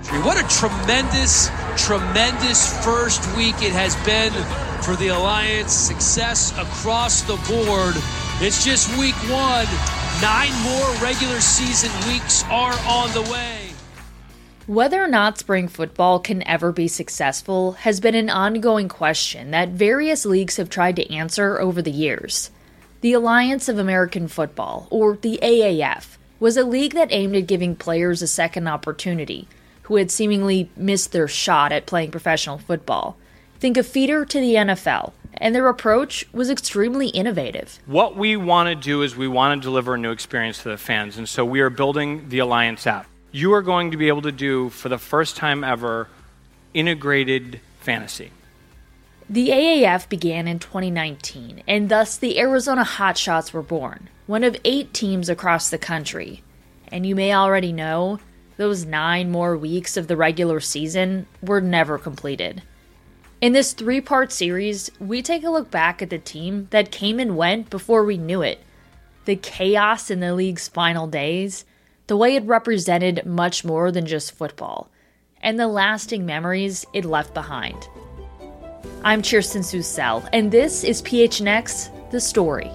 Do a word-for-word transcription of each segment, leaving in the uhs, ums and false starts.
What a tremendous, tremendous first week it has been for the Alliance. Success across the board. It's just week one. Nine more regular season weeks are on the way. Whether or not spring football can ever be successful has been an ongoing question that various leagues have tried to answer over the years. The Alliance of American Football, or the A A F, was a league that aimed at giving players a second opportunity who had seemingly missed their shot at playing professional football. Think a feeder to the N F L, and their approach was extremely innovative. What we want to do is we want to deliver a new experience to the fans, and so we are building the Alliance app. You are going to be able to do, for the first time ever, integrated fantasy. The A A F began in twenty nineteen, and thus the Arizona Hotshots were born, one of eight teams across the country. And you may already know, those nine more weeks of the regular season were never completed. In this three-part series, we take a look back at the team that came and went before we knew it, the chaos in the league's final days, the way it represented much more than just football, and the lasting memories it left behind. I'm Kirsten Susel, and this is P H N X, The Story.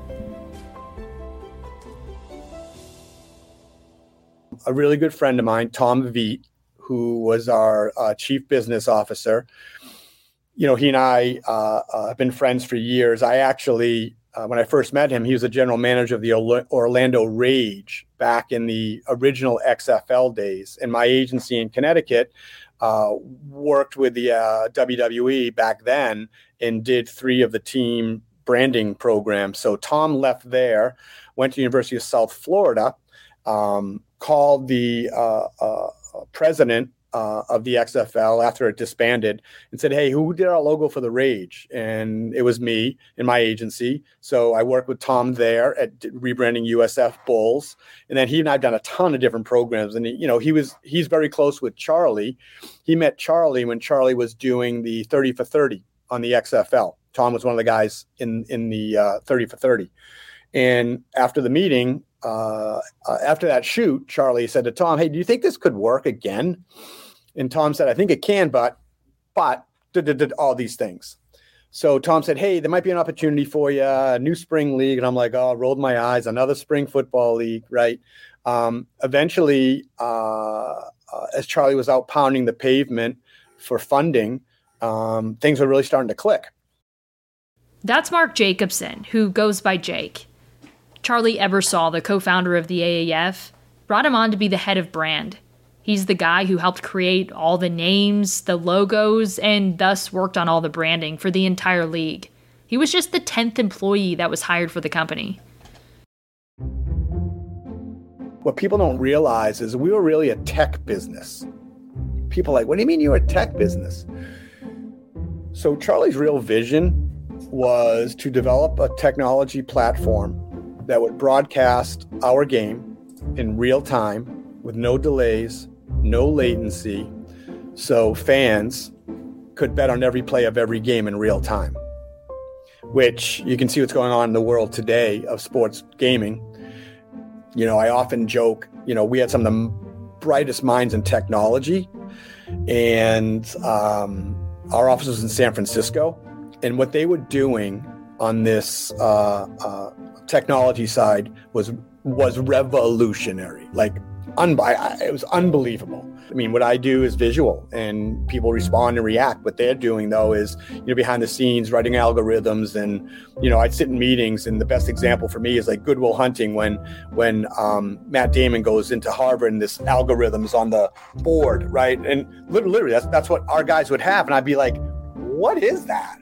A really good friend of mine, Tom Veet, who was our uh, chief business officer. You know, he and I uh, uh, have been friends for years. I actually, uh, when I first met him, he was the general manager of the Orlando Rage back in the original X F L days. And my agency in Connecticut uh, worked with the uh, W W E back then and did three of the team branding programs. So Tom left there, went to the University of South Florida, um, called the uh, uh, president uh, of the X F L after it disbanded and said, hey, who did our logo for the Rage? And it was me in my agency. So I worked with Tom there at rebranding U S F Bulls. And then he and I have done a ton of different programs. And, he, you know, he was he's very close with Charlie. He met Charlie when Charlie was doing the thirty for thirty on the X F L. Tom was one of the guys in, in the uh, thirty for thirty. And after the meeting, Uh, uh, after that shoot, Charlie said to Tom, hey, do you think this could work again? And Tom said, I think it can, but, but, did, did, did all these things. So Tom said, hey, there might be an opportunity for you, a new spring league. And I'm like, oh, I rolled my eyes, another spring football league, right? Um, eventually, uh, uh, as Charlie was out pounding the pavement for funding, um, things were really starting to click. That's Mark Jacobson, who goes by Jake. Charlie Ebersol, the co-founder of the A A F, brought him on to be the head of brand. He's the guy who helped create all the names, the logos, and thus worked on all the branding for the entire league. He was just the tenth employee that was hired for the company. What people don't realize is we were really a tech business. People are like, what do you mean you're a tech business? So Charlie's real vision was to develop a technology platform that would broadcast our game in real time with no delays, no latency, so fans could bet on every play of every game in real time, which you can see what's going on in the world today of sports gaming. You know, I often joke, you know, we had some of the brightest minds in technology, and um, our office was in San Francisco, and what they were doing on this uh, uh, technology side was was revolutionary. Like, un- I, I, it was unbelievable. I mean, what I do is visual, and people respond and react. What they're doing, though, is, you know, behind the scenes, writing algorithms. And, you know, I'd sit in meetings, and the best example for me is like Good Will Hunting, when when um, Matt Damon goes into Harvard and this algorithm's on the board, right? And literally, that's that's what our guys would have, and I'd be like, what is that?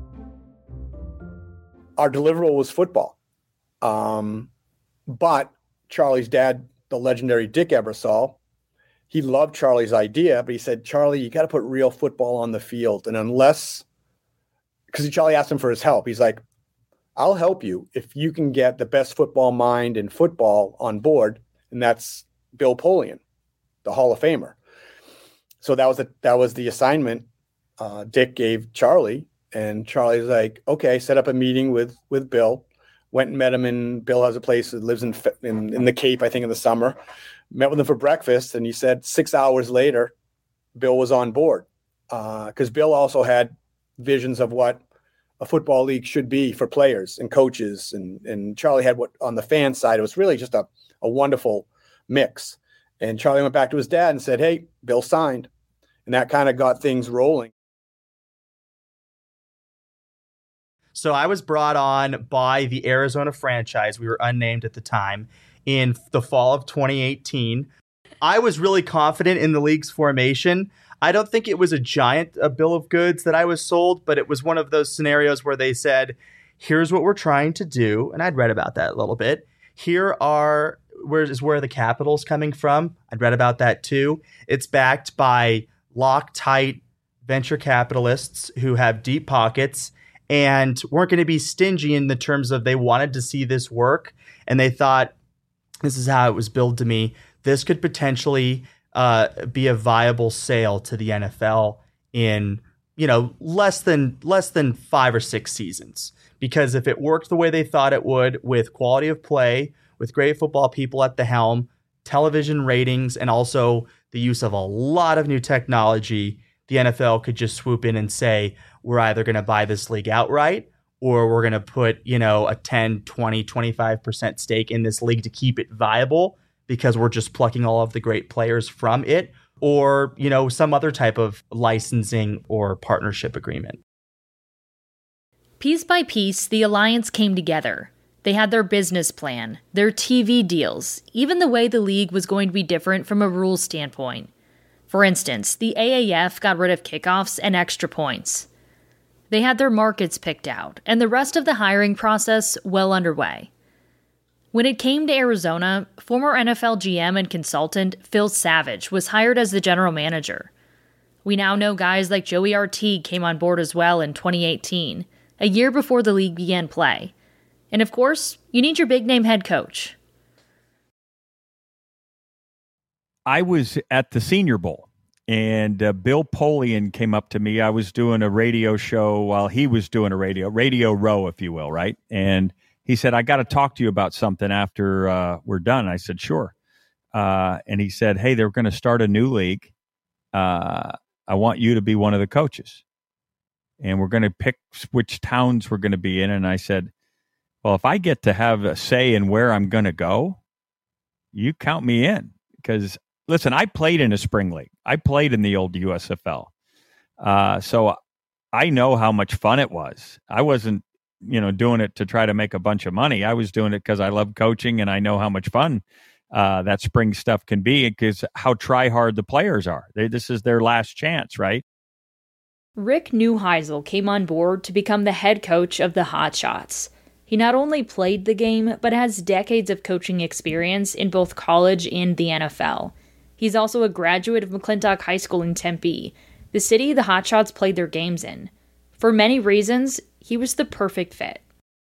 Our deliverable was football. Um, but Charlie's dad, the legendary Dick Ebersol, he loved Charlie's idea, but he said, Charlie, you got to put real football on the field. And unless, because Charlie asked him for his help, he's like, I'll help you if you can get the best football mind in football on board. And that's Bill Polian, the Hall of Famer. So that was the, that was the assignment uh, Dick gave Charlie. And Charlie's like, okay, set up a meeting with, with Bill. Went and met him in, Bill has a place that lives in, in, in the Cape, I think in the summer. Met with him for breakfast, and he said six hours later, Bill was on board. Because uh, Bill also had visions of what a football league should be for players and coaches. And, and Charlie had what on the fan side, it was really just a, a wonderful mix. And Charlie went back to his dad and said, hey, Bill signed. And that kind of got things rolling. So I was brought on by the Arizona franchise. We were unnamed at the time in the fall of twenty eighteen. I was really confident in the league's formation. I don't think it was a giant a bill of goods that I was sold, but it was one of those scenarios where they said, here's what we're trying to do. And I'd read about that a little bit. Here are where is where the capital's coming from. I'd read about that too. It's backed by Loctite venture capitalists who have deep pockets and weren't going to be stingy in the terms of they wanted to see this work. And they thought, this is how it was billed to me. This could potentially uh, be a viable sale to the N F L in, you know, less than less than five or six seasons. Because if it worked the way they thought it would, with quality of play, with great football people at the helm, television ratings, and also the use of a lot of new technology, the N F L could just swoop in and say, we're either going to buy this league outright or we're going to put, you know, a ten, twenty, twenty-five percent stake in this league to keep it viable because we're just plucking all of the great players from it, or, you know, some other type of licensing or partnership agreement. Piece by piece, the alliance came together. They had their business plan, their T V deals, even the way the league was going to be different from a rules standpoint. For instance, the A A F got rid of kickoffs and extra points. They had their markets picked out, and the rest of the hiring process well underway. When it came to Arizona, former N F L G M and consultant Phil Savage was hired as the general manager. We now know guys like Joey Artigue came on board as well in twenty eighteen, a year before the league began play. And of course, you need your big-name head coach. I was at the Senior Bowl, and uh, Bill Polian came up to me. I was doing a radio show while he was doing a radio, Radio Row, if you will, right? And he said, I got to talk to you about something after uh, we're done. I said, sure. Uh, and he said, hey, they're going to start a new league. Uh, I want you to be one of the coaches. And we're going to pick which towns we're going to be in. And I said, well, if I get to have a say in where I'm going to go, you count me in. Because, listen, I played in a spring league. I played in the old U S F L. Uh, so I know how much fun it was. I wasn't, you know, doing it to try to make a bunch of money. I was doing it because I love coaching and I know how much fun uh, that spring stuff can be, because how try hard the players are. They, this is their last chance, right? Rick Neuheisel came on board to become the head coach of the Hotshots. He not only played the game, but has decades of coaching experience in both college and the N F L. He's also a graduate of McClintock High School in Tempe, the city the Hotshots played their games in. For many reasons, he was the perfect fit.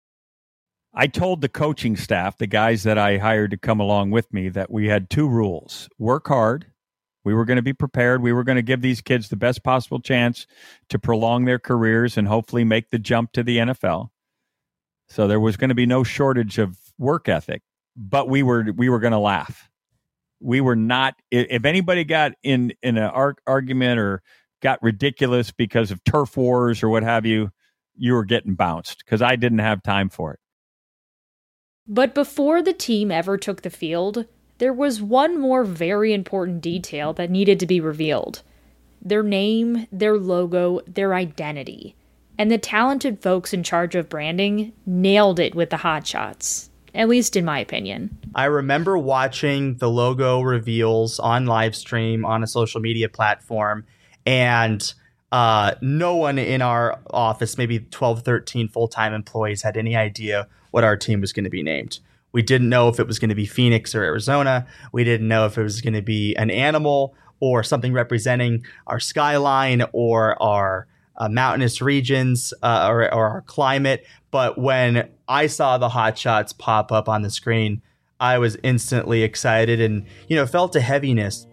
I told the coaching staff, the guys that I hired to come along with me, that we had two rules. Work hard. We were going to be prepared. We were going to give these kids the best possible chance to prolong their careers and hopefully make the jump to the N F L. So there was going to be no shortage of work ethic, but we were we were going to laugh. We were not. If anybody got in in an arg- argument or got ridiculous because of turf wars or what have you, you were getting bounced, because I didn't have time for it. But before the team ever took the field, there was one more very important detail that needed to be revealed. Their name, their logo, their identity. And the talented folks in charge of branding nailed it with the Hotshots, at least in my opinion. I remember watching the logo reveals on live stream on a social media platform, and uh, no one in our office, maybe twelve, thirteen full-time employees, had any idea what our team was going to be named. We didn't know if it was going to be Phoenix or Arizona. We didn't know if it was going to be an animal or something representing our skyline or our Uh, mountainous regions uh, or, or our climate. But when I saw the Hotshots pop up on the screen, I was instantly excited and, you know, felt a heaviness.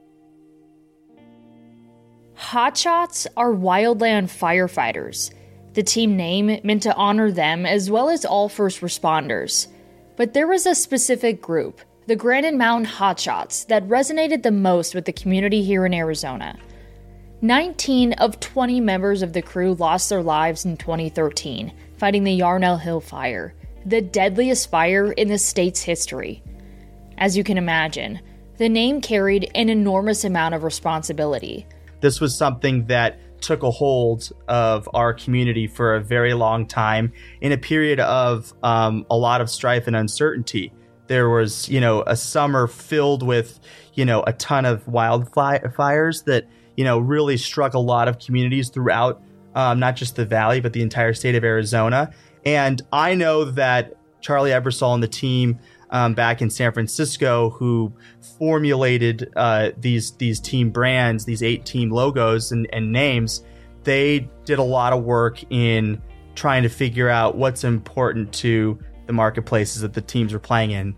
Hotshots are wildland firefighters. The team name meant to honor them as well as all first responders. But there was a specific group, the Granite Mountain Hotshots, that resonated the most with the community here in Arizona. nineteen of twenty members of the crew lost their lives in twenty thirteen, fighting the Yarnell Hill Fire, the deadliest fire in the state's history. As you can imagine, the name carried an enormous amount of responsibility. This was something that took a hold of our community for a very long time in a period of um, a lot of strife and uncertainty. There was, you know, a summer filled with, you know, a ton of wildfires that, you know, really struck a lot of communities throughout, um, not just the valley, but the entire state of Arizona. And I know that Charlie Ebersol and the team um, back in San Francisco, who formulated uh, these these team brands, these eight team logos and, and names, they did a lot of work in trying to figure out what's important to the marketplaces that the teams were playing in.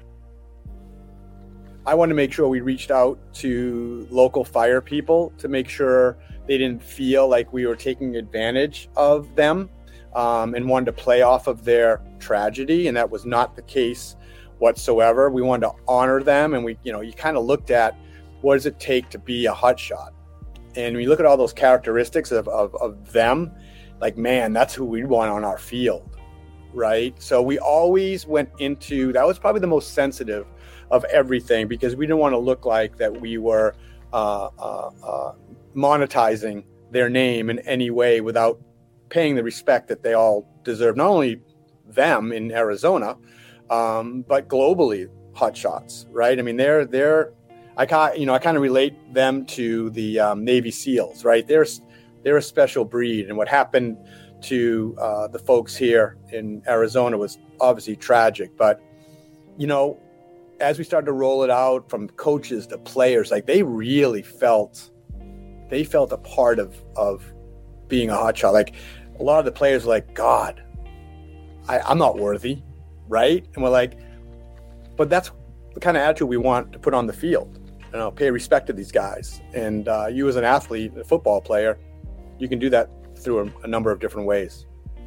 I wanted to make sure we reached out to local fire people to make sure they didn't feel like we were taking advantage of them, um, and wanted to play off of their tragedy. And that was not the case whatsoever. We wanted to honor them. And we, you know, you kind of looked at what does it take to be a hotshot? And we look at all those characteristics of, of, of them, like, man, that's who we want on our field, right? So we always went into, that was probably the most sensitive of everything, because we didn't want to look like that we were uh, uh, uh, monetizing their name in any way without paying the respect that they all deserve. Not only them in Arizona, um, but globally, hotshots, right? I mean, they're they're, I kind you know I kind of relate them to the um, Navy SEALs, right? They're they're a special breed, and what happened to uh, the folks here in Arizona was obviously tragic. But you know, as we started to roll it out from coaches to players, like they really felt, they felt a part of, of being a hotshot. Like a lot of the players were like, God, I, I'm not worthy, right? And we're like, but that's the kind of attitude we want to put on the field. You know, pay respect to these guys. And uh, you as an athlete, a football player, you can do that through a, a number of different ways.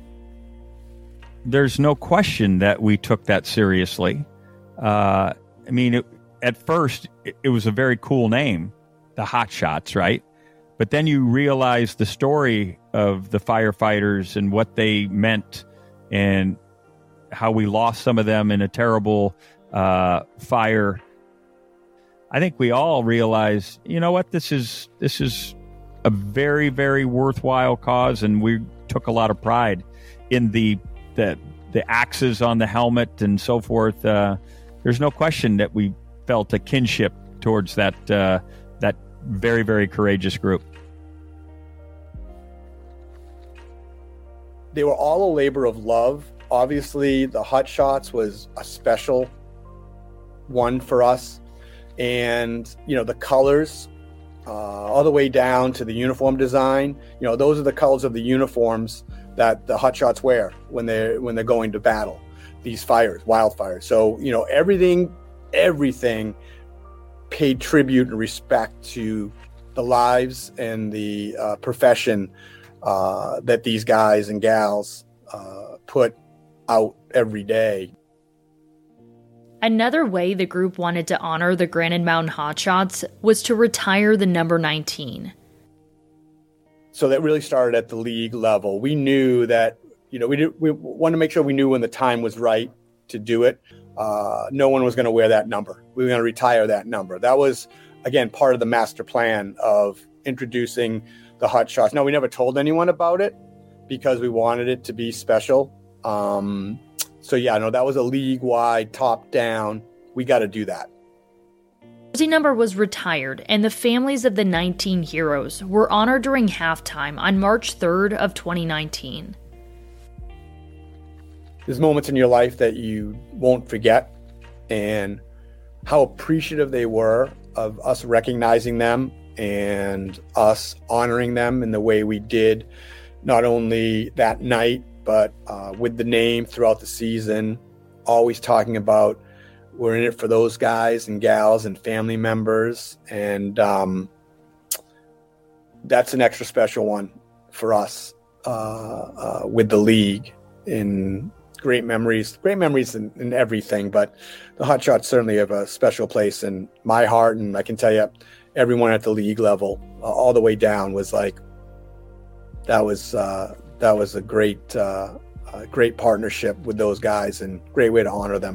There's no question that we took that seriously. Uh, I mean, it, at first, it, it was a very cool name, the Hotshots, right? But then you realize the story of the firefighters and what they meant and how we lost some of them in a terrible uh, fire. I think we all realize, you know what, this is this is a very, very worthwhile cause, and we took a lot of pride in the the, the axes on the helmet and so forth. Uh, There's no question that we felt a kinship towards that uh, that very, very courageous group. They were all a labor of love. Obviously, the Hotshots was a special one for us. And, you know, the colors, uh, all the way down to the uniform design, you know, those are the colors of the uniforms that the Hotshots wear when they're, when they're going to battle these fires, wildfires. So, you know, everything, everything paid tribute and respect to the lives and the uh, profession uh, that these guys and gals uh, put out every day. Another way the group wanted to honor the Granite Mountain Hotshots was to retire the number nineteen. So that really started at the league level. We knew that, you know, we did, we wanted to make sure we knew when the time was right to do it. Uh, no one was going to wear that number. We were going to retire that number. That was, again, part of the master plan of introducing the Hotshots. Now, we never told anyone about it because we wanted it to be special. Um, so, yeah, no, that was a league-wide, top-down. We got to do that. The jersey number was retired, and the families of the nineteen heroes were honored during halftime on March third of twenty nineteen. There's moments in your life that you won't forget, and how appreciative they were of us recognizing them and us honoring them in the way we did, not only that night, but uh, with the name throughout the season, always talking about we're in it for those guys and gals and family members. And um, that's an extra special one for us uh, uh, with the league. In great memories, great memories in, in everything, but the Hot Shots certainly have a special place in my heart. And I can tell you, everyone at the league level, uh, all the way down, was like, that was uh, that was a great, uh, uh, great partnership with those guys, and great way to honor them.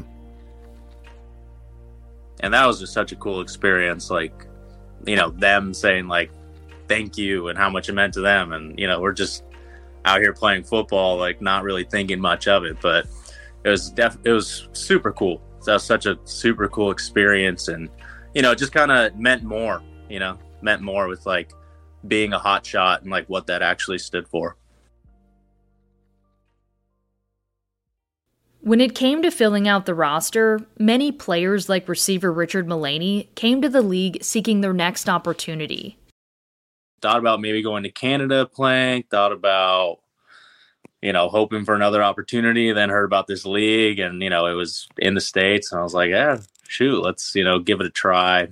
And that was just such a cool experience. Like, you know, them saying like, thank you, and how much it meant to them. And, you know, we're just out here playing football, like not really thinking much of it, but it was def- it was super cool. That was such a super cool experience. And, you know, it just kind of meant more, you know, meant more with like being a Hot Shot and like what that actually stood for. When it came to filling out the roster, many players like receiver Richard Mullaney came to the league seeking their next opportunity. Thought about maybe going to Canada playing, thought about, you know, hoping for another opportunity, then heard about this league and, you know, it was in the States. And I was like, yeah, shoot, let's, you know, give it a try.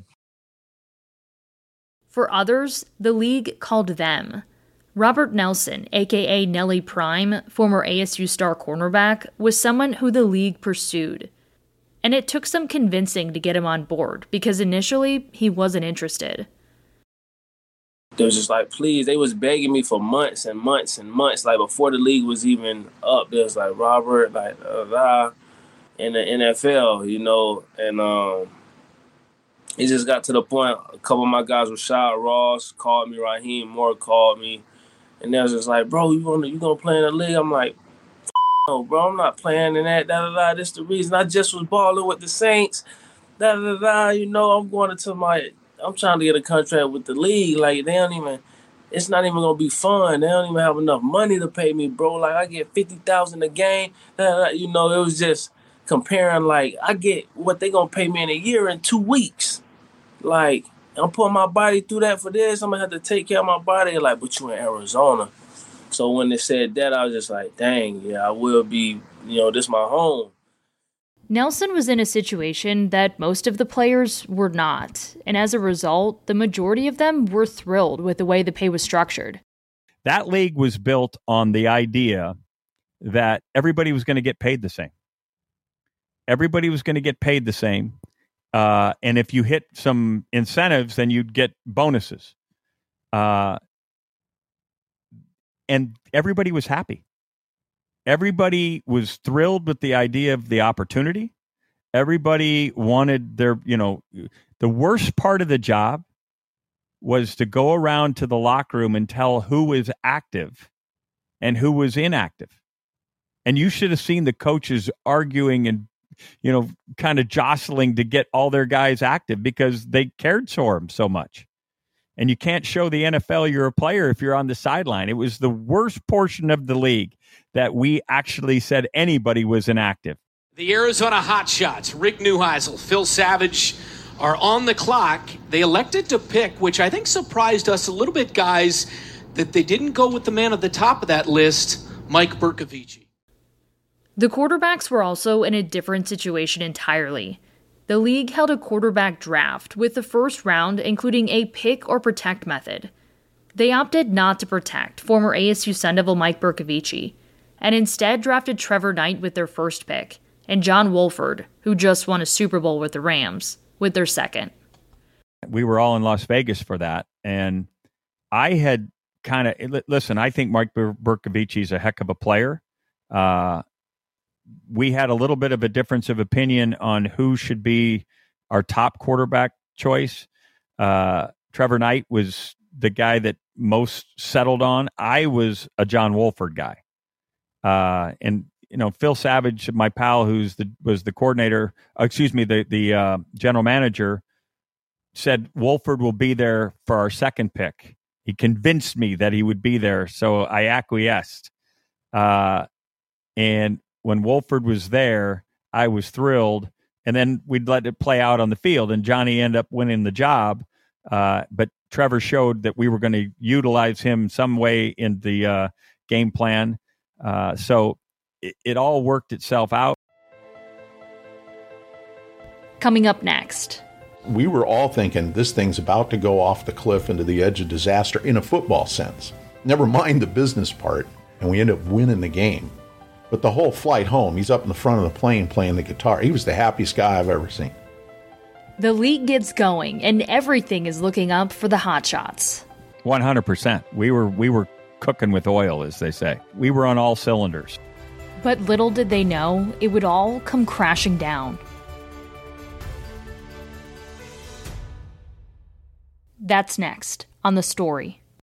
For others, the league called them. Robert Nelson, aka Nelly Prime, former A S U star cornerback, was someone who the league pursued. And it took some convincing to get him on board, because initially he wasn't interested. They was just like, please, they was begging me for months and months and months. Like before the league was even up, there was like Robert, like uh, uh, in the N F L, you know, and um, it just got to the point. A couple of my guys, Rashad Ross called me, Raheem Moore called me, and they was just like, bro, you want you gonna play in the league? I'm like, no, bro, I'm not playing in that. Da da da. This the reason I just was balling with the Saints. Da da da. You know, I'm going into my. I'm trying to get a contract with the league. Like, they don't even, it's not even going to be fun. They don't even have enough money to pay me, bro. Like, I get fifty thousand dollars a game. You know, it was just comparing, like, I get what they going to pay me in a year in two weeks. Like, I'm putting my body through that for this. I'm going to have to take care of my body. Like, but you in Arizona. So when they said that, I was just like, dang, yeah, I will be, you know, this my home. Nelson was in a situation that most of the players were not, and as a result, the majority of them were thrilled with the way the pay was structured. That league was built on the idea that everybody was going to get paid the same. Everybody was going to get paid the same, uh, and if you hit some incentives, then you'd get bonuses. Uh, and everybody was happy. Everybody was thrilled with the idea of the opportunity. Everybody wanted their, you know, the worst part of the job was to go around to the locker room and tell who was active and who was inactive. And you should have seen the coaches arguing and, you know, kind of jostling to get all their guys active because they cared for them so much. And you can't show the N F L you're a player if you're on the sideline. It was the worst portion of the league that we actually said anybody was inactive. The Arizona Hot Shots, Rick Neuheisel, Phil Savage are on the clock. They elected to pick, which I think surprised us a little bit, guys, that they didn't go with the man at the top of that list, Mike Bercovici. The quarterbacks were also in a different situation entirely. The league held a quarterback draft with the first round including a pick or protect method. They opted not to protect former A S U Sun Devil Mike Bercovici, and instead drafted Trevor Knight with their first pick, and John Wolford, who just won a Super Bowl with the Rams, with their second. We were all in Las Vegas for that, and I had kind of, listen, I think Mike Bercovici is a heck of a player. Uh, we had a little bit of a difference of opinion on who should be our top quarterback choice. Uh, Trevor Knight was the guy that most settled on. I was a John Wolford guy. Uh, and, you know, Phil Savage, my pal, who's the, was the coordinator, excuse me, the, the uh, general manager, said Wolford will be there for our second pick. He convinced me that he would be there, so I acquiesced. Uh, and when Wolford was there, I was thrilled. And then we'd let it play out on the field, and Johnny ended up winning the job. Uh, but Trevor showed that we were going to utilize him some way in the uh, game plan. Uh, so it, it all worked itself out. Coming up next. We were all thinking this thing's about to go off the cliff into the edge of disaster in a football sense. Never mind the business part. and we ended up winning the game. But the whole flight home, he's up in the front of the plane playing the guitar. He was the happiest guy I've ever seen. The league gets going, and everything is looking up for the Hotshots. one hundred percent. We were we were cooking with oil, as they say. We were on all cylinders. But little did they know, it would all come crashing down. That's next on The Story.